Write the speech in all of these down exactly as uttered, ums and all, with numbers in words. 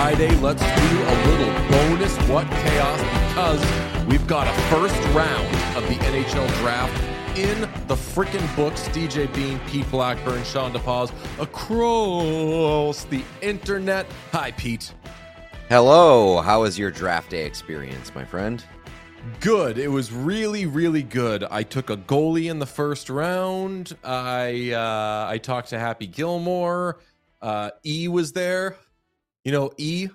Friday, let's do a little bonus What Chaos because we've got a first round of the N H L draft in the frickin' books. D J Bean, Pete Blackburn, Sean DePaz across the internet. Hi, Pete. Hello. How was your draft day experience, my friend? Good. It was really, really good. I took a goalie in the first round. I uh, I talked to Happy Gilmore. Uh, E was there. You know, E.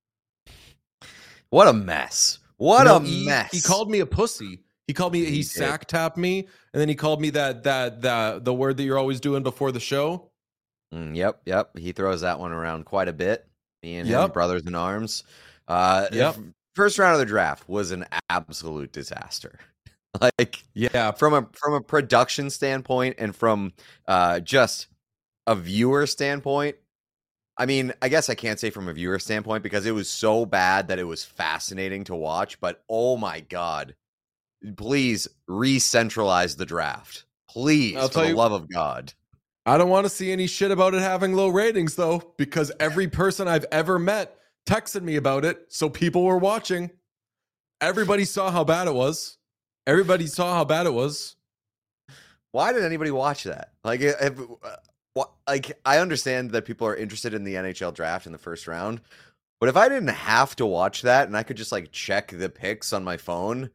What a mess. What you know, a e, mess. He called me a pussy. He called me, he, he sack tapped me, and then he called me that, that, that, the word that you're always doing before the show. Mm, yep, yep. He throws that one around quite a bit. Me and yep. him, brothers in arms. Uh, yep. First round of the draft was an absolute disaster. Like, yeah, from a from a production standpoint and from uh, just a viewer standpoint. I mean, I guess I can't say from a viewer standpoint because it was so bad that it was fascinating to watch. But oh my god, please re-centralize the draft, please, I'll for tell the you, love of God. I don't want to see any shit about it having low ratings though, because every person I've ever met texted me about it, so people were watching. Everybody saw how bad it was. Everybody saw how bad it was. Why did anybody watch that? Like, if, uh, like I understand that people are interested in the N H L draft in the first round, but if I didn't have to watch that and I could just like check the picks on my phone,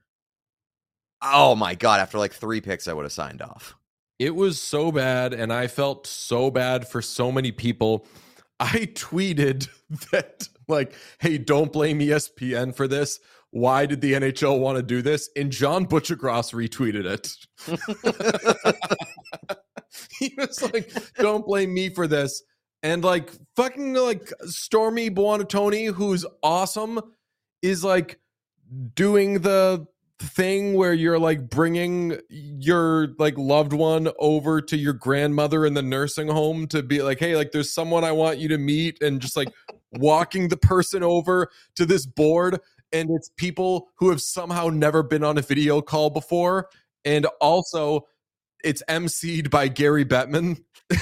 oh my god! After like three picks, I would have signed off. It was so bad, and I felt so bad for so many people. I tweeted that, like, hey, don't blame E S P N for this. Why did the N H L want to do this? And John Butchergross retweeted it. He was like, don't blame me for this. And, like, fucking, like, Stormy Buonantony, who's awesome, is, like, doing the thing where you're, like, bringing your, like, loved one over to your grandmother in the nursing home to be like, hey, like, there's someone I want you to meet, and just, like, walking the person over to this board. And it's people who have somehow never been on a video call before. And also, it's emceed by Gary Bettman.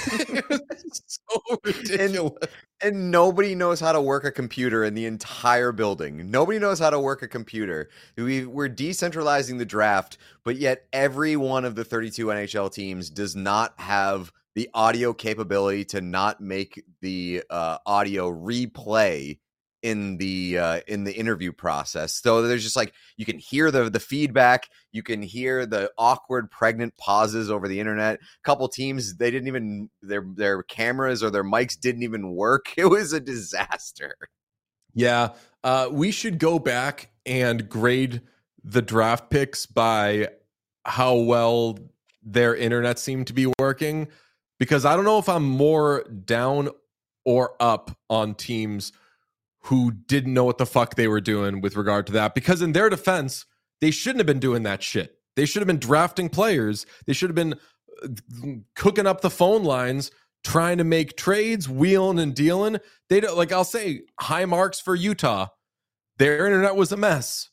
It's so ridiculous. And, and nobody knows how to work a computer in the entire building. Nobody knows how to work a computer. We, we're decentralizing the draft, but yet every one of the thirty-two N H L teams does not have the audio capability to not make the uh, audio replay in the uh, in the interview process. So there's just like, you can hear the the feedback, you can hear the awkward pregnant pauses over the internet. A couple teams, they didn't even, their their cameras or their mics didn't even work. It was a disaster. Yeah, uh, we should go back and grade the draft picks by how well their internet seemed to be working, because I don't know if I'm more down or up on teams who didn't know what the fuck they were doing with regard to that. Because in their defense, they shouldn't have been doing that shit. They should have been drafting players. They should have been cooking up the phone lines, trying to make trades, wheeling and dealing. They don't, like, I'll say high marks for Utah. Their internet was a mess.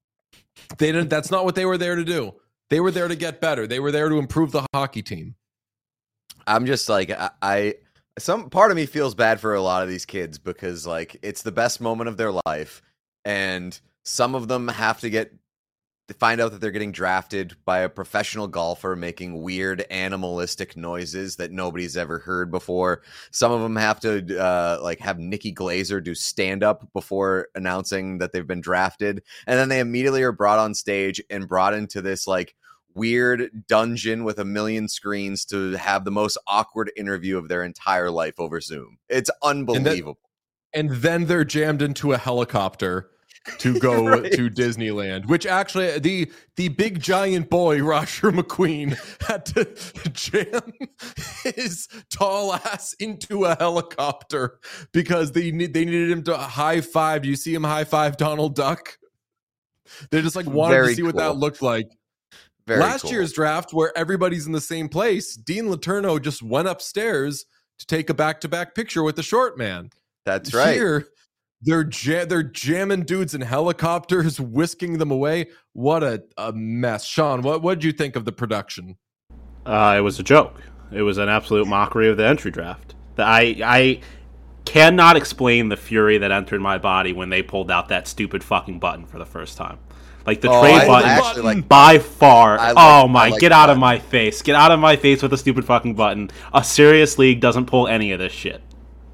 They didn't, that's not what they were there to do. They were there to get better. They were there to improve the hockey team. I'm just like, I, I some part of me feels bad for a lot of these kids because, like, it's the best moment of their life, and some of them have to get to find out that they're getting drafted by a professional golfer making weird animalistic noises that nobody's ever heard before. Some of them have to uh, like have Nikki Glazer do stand up before announcing that they've been drafted, and then they immediately are brought on stage and brought into this like weird dungeon with a million screens to have the most awkward interview of their entire life over Zoom. It's unbelievable. And then, and then they're jammed into a helicopter to go right. to Disneyland, which actually the the big giant boy Roger McQueen had to jam his tall ass into a helicopter because they need they needed him to high five. Do you see him high five Donald Duck? They just like wanted Very to see cool. what that looked like. Very Last cool. year's draft, where everybody's in the same place, Dean Letourneau just went upstairs to take a back-to-back picture with the short man. That's right. Here, they're ja- they're jamming dudes in helicopters, whisking them away. What a, a mess. Sean, what what did you think of the production? Uh, it was a joke. It was an absolute mockery of the entry draft. The, I I cannot explain the fury that entered my body when they pulled out that stupid fucking button for the first time. Like the Oh, trade I- I button, actually like by far. I like- oh I my! like get the out of button. my face! Get out of my face with a stupid fucking button. A serious league doesn't pull any of this shit.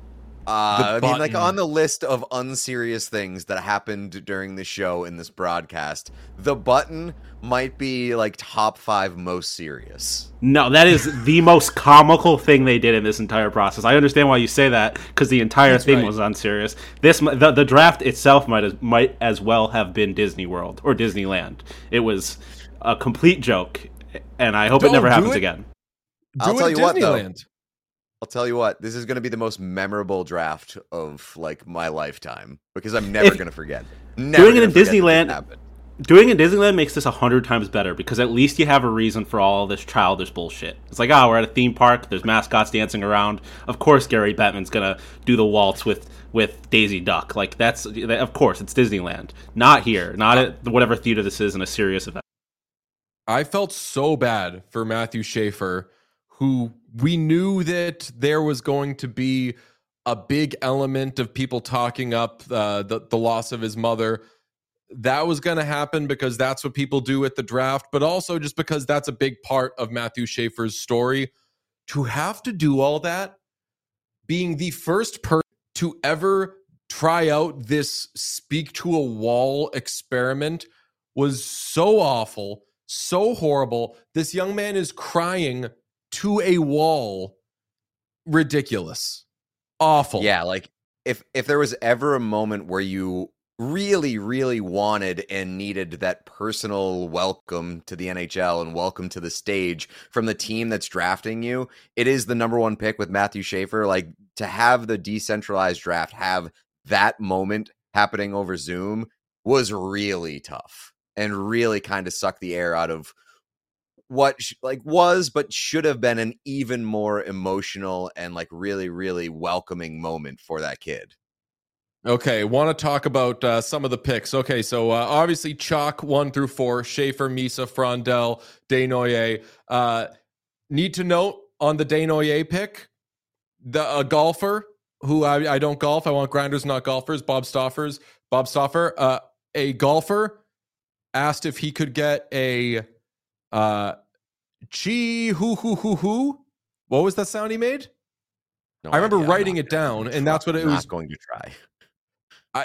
Uh, The I mean, like button. on the list of unserious things that happened during the show in this broadcast, the button might be like top five most serious. No, that is the most comical thing they did in this entire process. I understand why you say that because the entire That's thing right. was unserious. This the, the draft itself might as might as well have been Disney World or Disneyland. It was a complete joke, and I hope it Don't never do happens it. again. I'll Do tell it you what, though. Disneyland. I'll tell you what, this is going to be the most memorable draft of like my lifetime because I'm never If- going to forget. Never Doing it gonna in forget that this Disneyland- happened. Doing it in Disneyland makes this a hundred times better because at least you have a reason for all this childish bullshit. It's like, oh, we're at a theme park. There's mascots dancing around. Of course, Gary Bettman's gonna do the waltz with with Daisy Duck. Like that's of course it's Disneyland, not here, not at whatever theater this is in a serious event. I felt so bad for Matthew Schaefer, who we knew that there was going to be a big element of people talking up uh, the, the loss of his mother. That was going to happen because that's what people do at the draft, but also just because that's a big part of Matthew Schaefer's story. To have to do all that, being the first person to ever try out this speak to a wall experiment was so awful, so horrible. This young man is crying to a wall. Ridiculous. Awful. Yeah, like if if there was ever a moment where you really, really wanted and needed that personal welcome to the N H L and welcome to the stage from the team that's drafting you, it is the number one pick with Matthew Schaefer. Like to have the decentralized draft have that moment happening over Zoom was really tough and really kind of sucked the air out of what sh- like was but should have been an even more emotional and like really, really welcoming moment for that kid. Okay, want to talk about uh, some of the picks. Okay, so uh, obviously chalk one through four, Schaefer, Misa, Frondel, Desnoyers. Uh, need to note on the Desnoyers pick, the a golfer who I, I don't golf. I want grinders, not golfers. Bob Stoffers, Bob Stoffer, uh, a golfer asked if he could get a uh, chi hoo hoo hoo hoo. What was that sound he made? No I remember idea. I'm writing not it gonna down, try. and that's what it I'm was. Not going to try. I,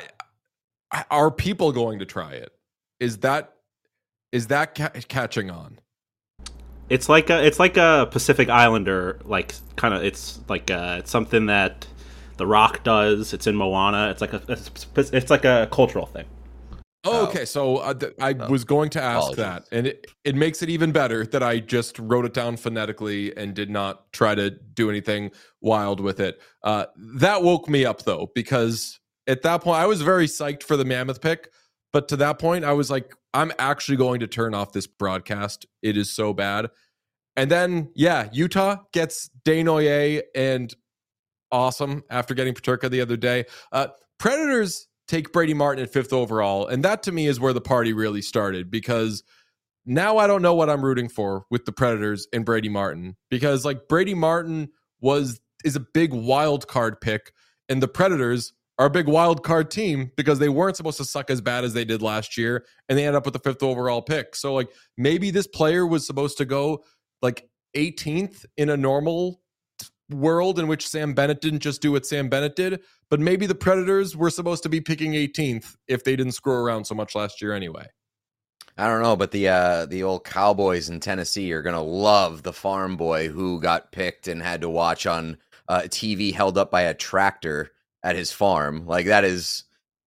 I are people going to try it? Is that is that ca- catching on? It's like a it's like a Pacific Islander like kind of it's like uh it's something that The Rock does. It's in Moana. It's like a it's, it's like a cultural thing. Oh, Oh. okay. So uh, th- I Oh. was going to ask Apologies. that, and it, it makes it even better that I just wrote it down phonetically and did not try to do anything wild with it. Uh, that woke me up though, because at that point I was very psyched for the Mammoth pick, but to that point I was like, I'm actually going to turn off this broadcast. It is so bad. And then yeah, Utah gets Desnoyers and awesome after getting Paterka the other day. Uh, Predators take Brady Martin at fifth overall, and that to me is where the party really started, because now I don't know what I'm rooting for with the Predators and Brady Martin, because like Brady Martin was is a big wild card pick, and the Predators are a big wild card team because they weren't supposed to suck as bad as they did last year, and they end up with the fifth overall pick. So like maybe this player was supposed to go like eighteenth in a normal world in which Sam Bennett didn't just do what Sam Bennett did, but maybe the Predators were supposed to be picking eighteenth if they didn't screw around so much last year anyway. I don't know, but the uh, the old Cowboys in Tennessee are gonna love the farm boy who got picked and had to watch on uh, T V held up by a tractor at his farm. Like that is,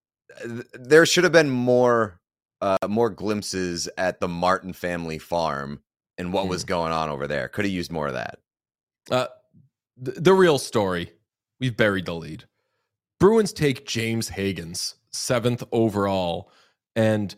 there should have been more uh, more glimpses at the Martin family farm and what Hmm. was going on over there. Could have used more of that. Uh, th- the real story, we've buried the lead. Bruins take James Higgins, seventh overall, and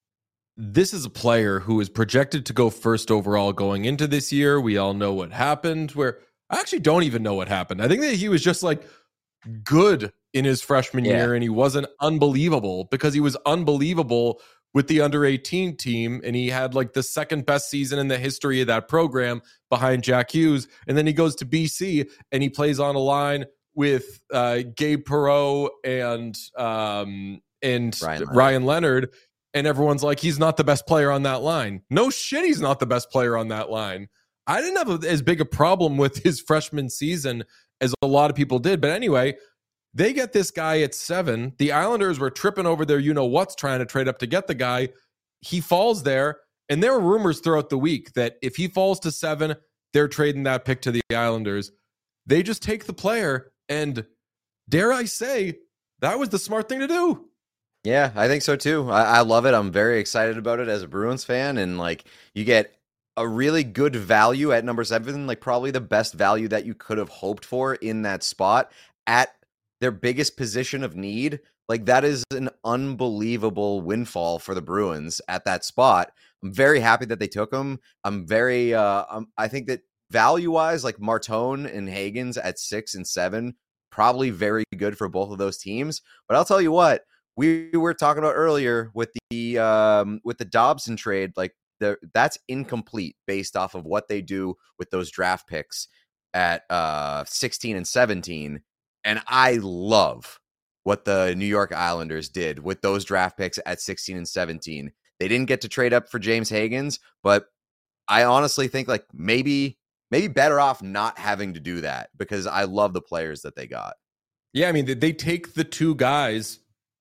this is a player who is projected to go first overall going into this year. We all know what happened, where I actually don't even know what happened. I think that he was just like good in his freshman Yeah. year, and he wasn't unbelievable because he was unbelievable with the under eighteen team, and he had like the second best season in the history of that program behind Jack Hughes. And then he goes to B C and he plays on a line with uh, Gabe Perreault and um, and Ryan Leonard. Ryan Leonard, and everyone's like, he's not the best player on that line. No shit, he's not the best player on that line. I didn't have a, as big a problem with his freshman season as a lot of people did. But anyway, they get this guy at seven. The Islanders were tripping over their you-know-what's trying to trade up to get the guy. He falls there, and there were rumors throughout the week that if he falls to seven, they're trading that pick to the Islanders. They just take the player, and dare I say, that was the smart thing to do. Yeah, I think so too. I, I love it. I'm very excited about it as a Bruins fan, and like you get a really good value at number seven, like probably the best value that you could have hoped for in that spot at their biggest position of need. Like that is an unbelievable windfall for the Bruins at that spot. I'm very happy that they took him. I'm very, uh, um, I think that value wise, like Martone and Hagens at six and seven, probably very good for both of those teams. But I'll tell you what, we were talking about earlier with the um, with the Dobson trade, like the, that's incomplete based off of what they do with those draft picks at uh, sixteen and seventeen. And I love what the New York Islanders did with those draft picks at sixteen and seventeen. They didn't get to trade up for James Hagens, but I honestly think like maybe maybe better off not having to do that because I love the players that they got. Yeah, I mean, they take the two guys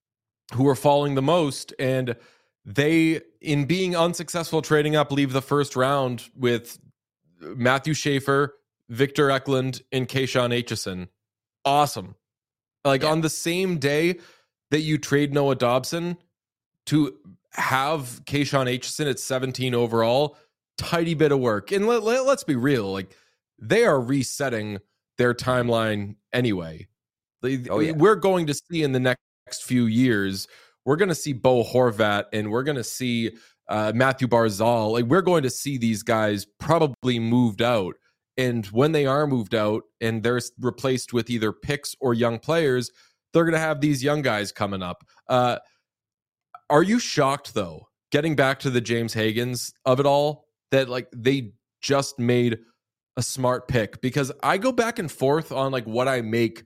who are falling the most, and they, in being unsuccessful trading up, leave the first round with Matthew Schaefer, Victor Eklund, and Keishon Aitchison. Awesome. Like yeah. On the same day that you trade Noah Dobson, to have Keishon Aitchison at seventeen overall, tidy bit of work. And let, let, let's be real, like they are resetting their timeline anyway. They, oh, yeah. We're going to see in the next few years, we're going to see Bo Horvat and we're going to see uh, Matthew Barzal. Like we're going to see these guys probably moved out. And when they are moved out and they're replaced with either picks or young players, they're going to have these young guys coming up. Uh, are you shocked, though, getting back to the James Hagens of it all, that like they just made a smart pick? Because I go back and forth on like what I make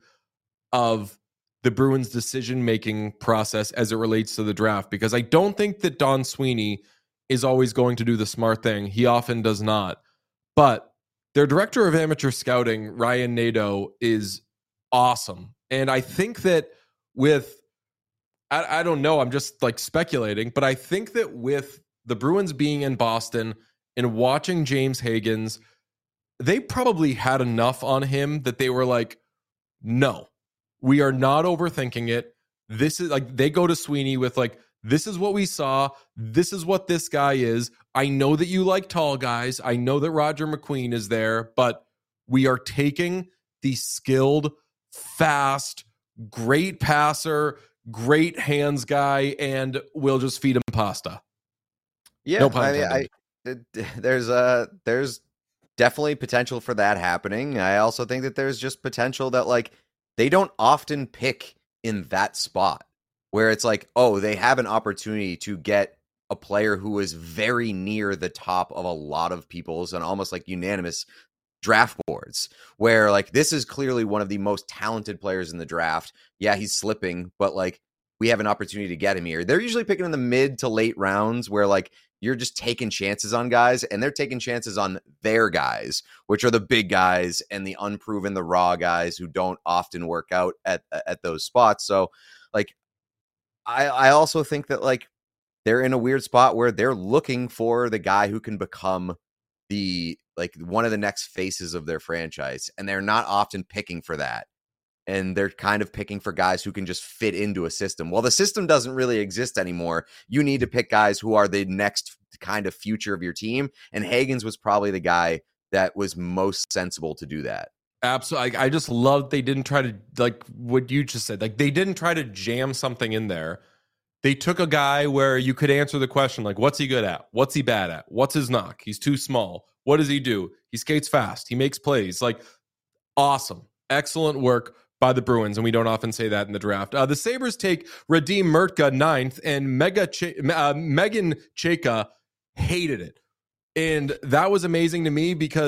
of the Bruins' decision-making process as it relates to the draft, because I don't think that Don Sweeney is always going to do the smart thing. He often does not. But their director of amateur scouting, Ryan Nadeau, is awesome. And I think that with, I, I don't know, I'm just like speculating, but I think that with the Bruins being in Boston and watching James Hagens, they probably had enough on him that they were like, no, we are not overthinking it. This is like, they go to Sweeney with like, this is what we saw. This is what this guy is. I know that you like tall guys. I know that Roger McQueen is there, but we are taking the skilled, fast, great passer, great hands guy, and we'll just feed him pasta. Yeah, no pun intended. I mean, I, there's a there's definitely potential for that happening. I also think that there's just potential that like they don't often pick in that spot where it's like, oh, they have an opportunity to get a player who is very near the top of a lot of people's and almost like unanimous draft boards, where like this is clearly one of the most talented players in the draft. Yeah, he's slipping, but like we have an opportunity to get him here. They're usually picking in the mid to late rounds where like you're just taking chances on guys, and they're taking chances on their guys, which are the big guys and the unproven, the raw guys who don't often work out at at those spots. So like I I also think that like they're in a weird spot where they're looking for the guy who can become the like one of the next faces of their franchise, and they're not often picking for that. And they're kind of picking for guys who can just fit into a system. Well, the system doesn't really exist anymore. You need to pick guys who are the next kind of future of your team. And Hagens was probably the guy that was most sensible to do that. Absolutely. I, I just love they didn't try to, like what you just said, like they didn't try to jam something in there. They took a guy where you could answer the question, like, what's he good at? What's he bad at? What's his knock? He's too small. What does he do? He skates fast. He makes plays. Like, awesome. Excellent work by the Bruins, and we don't often say that in the draft. Uh, the Sabres take Radim Murtka ninth, and Mega Ch- uh, Megan Chayka hated it. And that was amazing to me because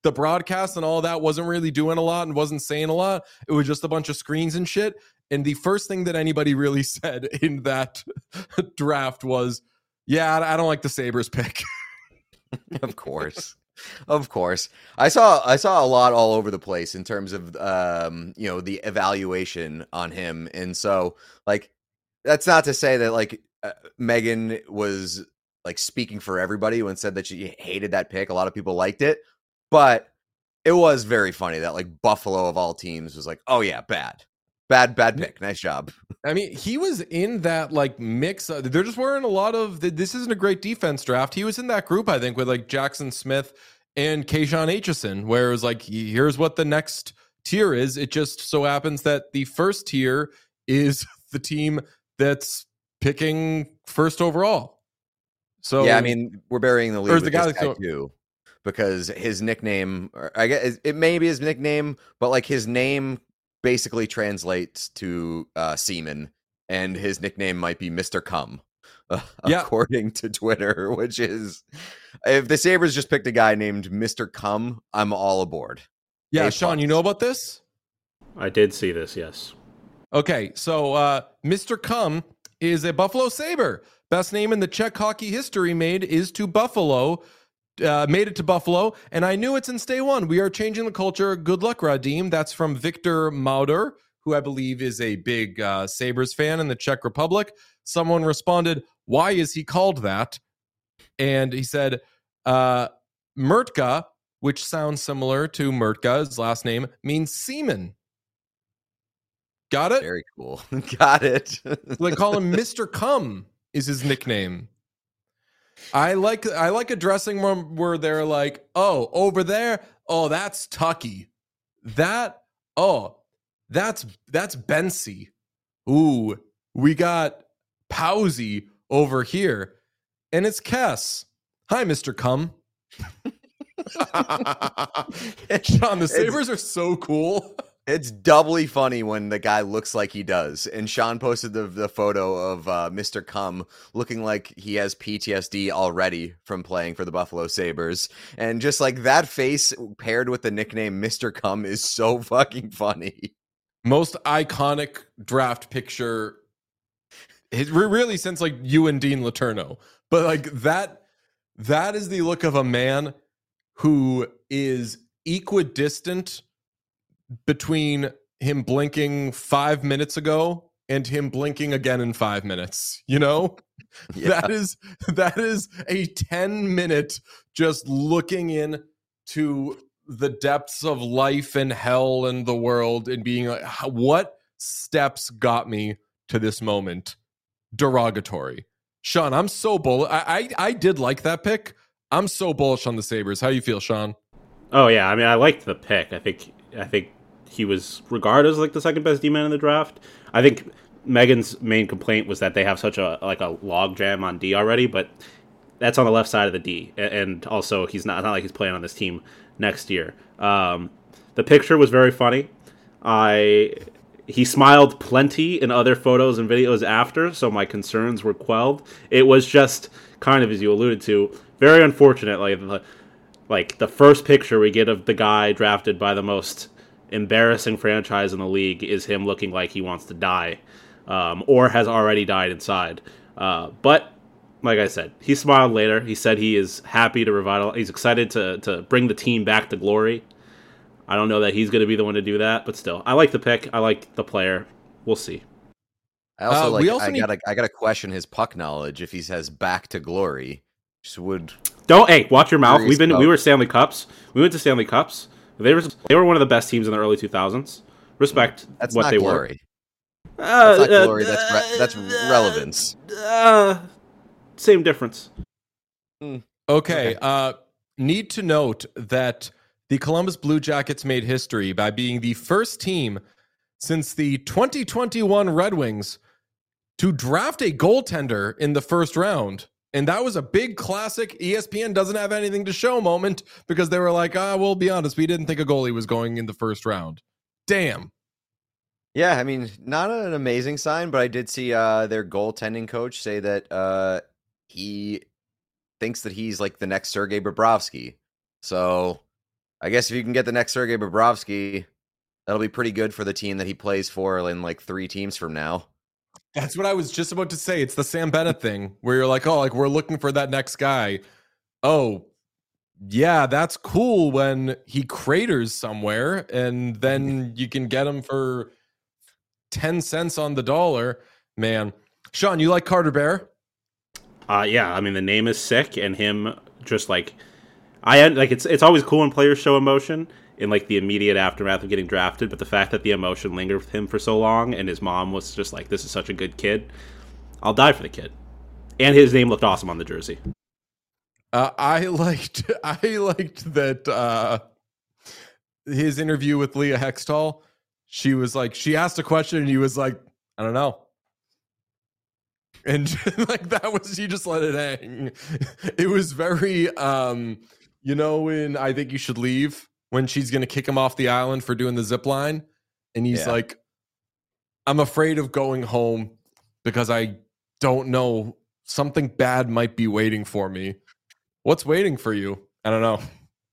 the broadcast and all that wasn't really doing a lot and wasn't saying a lot. It was just a bunch of screens and shit. And the first thing that anybody really said in that draft was, yeah, I don't like the Sabres pick. Of course. Of course. I saw I saw a lot all over the place in terms of um, you know, the evaluation on him. And so like that's not to say that like uh, Megan was like speaking for everybody when said that she hated that pick. A lot of people liked it, but it was very funny that like Buffalo of all teams was like, "Oh yeah, bad. Bad bad pick. Nice job." I mean, he was in that like mix. Uh, there just weren't a lot of. This isn't a great defense draft. He was in that group, I think, with like Jackson Smith and Keyshawn Aitchison, where it was like, here's what the next tier is. It just so happens that the first tier is the team that's picking first overall. So yeah, I mean, we're burying the lead with the guy this guy too, because his nickname, or I guess it may be his nickname, but like his name basically translates to uh, semen, and his nickname might be Mister Cum, uh, yeah. according to Twitter, which is, if the Sabres just picked a guy named Mister Cum, I'm all aboard. Yeah, A Sean, plus. you know about this? I did see this, yes. Okay, so uh, Mister Cum is a Buffalo Sabre. Best name in the Czech hockey history made is to Buffalo. Uh, made it to Buffalo, and I knew it since day one. We are changing the culture. Good luck, Radim. That's from Victor Mauder, who I believe is a big uh, Sabres fan in the Czech Republic. Someone responded, why is he called that? And he said, uh, Murtka, which sounds similar to Murtka, his last name, means semen. Got it? Very cool. Got it. They call him Mister Cum is his nickname. I like I like addressing where, where they're like, oh, over there, oh, that's Tucky. That, oh, that's that's Bensy. Ooh, we got Powsy over here. And it's Kess. Hi, Mister Cum. Sean, the Sabres are so cool. It's doubly funny when the guy looks like he does. And Sean posted the, the photo of uh, Mister Cum looking like he has P T S D already from playing for the Buffalo Sabres. And just like that face paired with the nickname Mister Cum is so fucking funny. Most iconic draft picture, it, really since like you and Dean Letourneau. But like that, that is the look of a man who is equidistant between him blinking five minutes ago and him blinking again in five minutes, you know, yeah. that is, that is a ten minute just looking in to the depths of life and hell and the world and being like, what steps got me to this moment? Derogatory. Sean, I'm so bullish. I, I, I did like that pick. I'm so bullish on the Sabres. How you feel, Sean? Oh yeah. I mean, I liked the pick. I think, I think, he was regarded as like the second best D-man in the draft. I think Megan's main complaint was that they have such a like a log jam on D already, but that's on the left side of the D, and also he's not not like he's playing on this team next year. Um, the picture was very funny. I he smiled plenty in other photos and videos after, so my concerns were quelled. It was just kind of, as you alluded to, very unfortunate. Like the, like the first picture we get of the guy drafted by the most embarrassing franchise in the league is him looking like he wants to die, um, or has already died inside. Uh, but like I said, he smiled later. He said he is happy to revitalize. He's excited to to bring the team back to glory. I don't know that he's going to be the one to do that, but still, I like the pick. I like the player. We'll see. I also uh, like. We also I need... gotta. I gotta question his puck knowledge if he says "back to glory." Just would. Don't. Hey, watch your mouth. We've been. About... We were Stanley Cups. We went to Stanley Cups. They were they were one of the best teams in the early two thousands. Respect that's what not they glory. were. Uh, that's not uh, glory. That's re- that's relevance. Uh, same difference. Okay. Okay. Uh, need to note that the Columbus Blue Jackets made history by being the first team since the twenty twenty-one Red Wings to draft a goaltender in the first round. And that was a big classic E S P N doesn't have anything to show moment because they were like, ah, we'll be honest, we didn't think a goalie was going in the first round. Damn. Yeah, I mean, not an amazing sign, but I did see uh, their goaltending coach say that uh, he thinks that he's like the next Sergei Bobrovsky. So, I guess if you can get the next Sergei Bobrovsky, that'll be pretty good for the team that he plays for in like three teams from now. That's what I was just about to say. It's the Sam Bennett thing where you're like, oh, like we're looking for that next guy. Oh, yeah, that's cool when he craters somewhere and then you can get him for ten cents on the dollar. Man. Sean, you like Carter Bear? Uh, yeah, I mean, the name is sick, and him just like, I had, like, it's it's always cool when players show emotion in like the immediate aftermath of getting drafted, but the fact that the emotion lingered with him for so long, and his mom was just like, this is such a good kid, I'll die for the kid. And his name looked awesome on the jersey. Uh, I liked I liked that uh, his interview with Leah Hextall. She was like, she asked a question and he was like, I don't know. And like that was, he just let it hang. It was very, um, you know, in I Think You Should Leave, when she's going to kick him off the island for doing the zip line. And he's yeah. like, I'm afraid of going home because I don't know, something bad might be waiting for me. What's waiting for you? I don't know.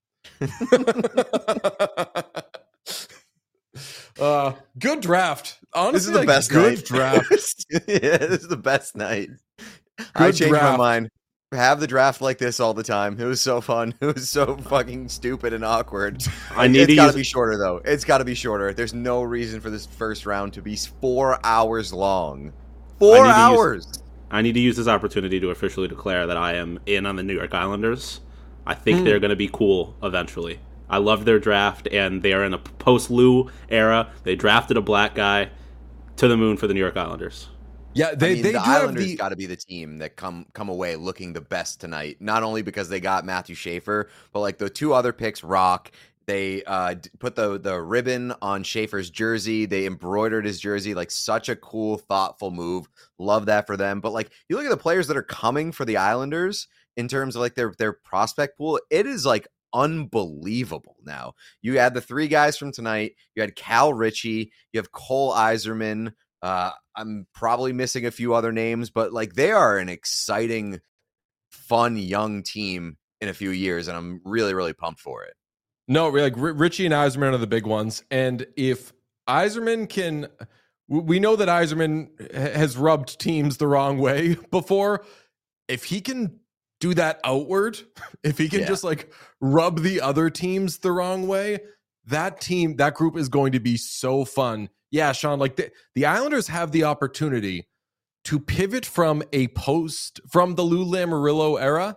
uh, good draft. Honestly, this is the like, best good night. draft. Yeah, this is the best night. Good I changed draft. my mind. Have the draft like this all the time. It was so fun. It was so fucking stupid and awkward. I need it's to got to use... be shorter though. It's got to be shorter. There's no reason for this first round to be four hours long. Four I hours. Use... I need to use this opportunity to officially declare that I am in on the New York Islanders. I think mm. they're going to be cool eventually. I love their draft, and they are in a post-Lou era. They drafted a black guy to the moon for the New York Islanders. Yeah, they, I mean, they the do Islanders the... got to be the team that come come away looking the best tonight. Not only because they got Matthew Schaefer, but like the two other picks, Rock. They uh, put the the ribbon on Schaefer's jersey. They embroidered his jersey. Like such a cool, thoughtful move. Love that for them. But like you look at the players that are coming for the Islanders in terms of like their their prospect pool, it is like unbelievable. Now you had the three guys from tonight. You had Cal Ritchie. You have Cole Iserman. Uh, I'm probably missing a few other names, but like they are an exciting, fun young team in a few years, and I'm really, really pumped for it. No, like Ritchie and Iserman are the big ones, and if Iserman can, we know that Iserman has rubbed teams the wrong way before. If he can do that outward, if he can yeah. just like rub the other teams the wrong way, that team, that group is going to be so fun. Yeah, Sean, like the, the Islanders have the opportunity to pivot from a post, from the Lou Lamoriello era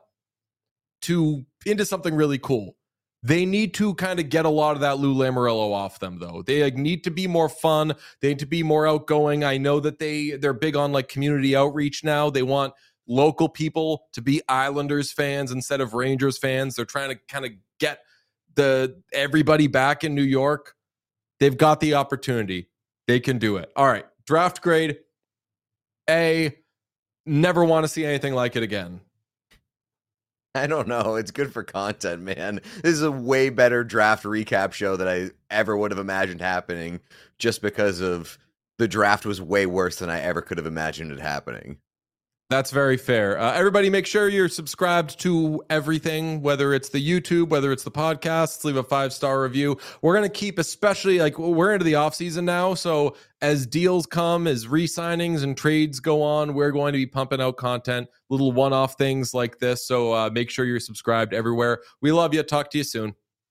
to into something really cool. They need to kind of get a lot of that Lou Lamoriello off them, though. They like, need to be more fun. They need to be more outgoing. I know that they, they're big on like community outreach now. They want local people to be Islanders fans instead of Rangers fans. They're trying to kind of get the everybody back in New York. They've got the opportunity. They can do it. All right. Draft grade A. Never want to see anything like it again. I don't know. It's good for content, man. This is a way better draft recap show than I ever would have imagined happening, just because of the draft was way worse than I ever could have imagined it happening. That's very fair. Uh, everybody, make sure you're subscribed to everything, whether it's the YouTube, whether it's the podcasts. Leave a five-star review. We're going to keep, especially, like, we're into the offseason now, so as deals come, as re-signings and trades go on, we're going to be pumping out content, little one-off things like this, so uh, make sure you're subscribed everywhere. We love you. Talk to you soon.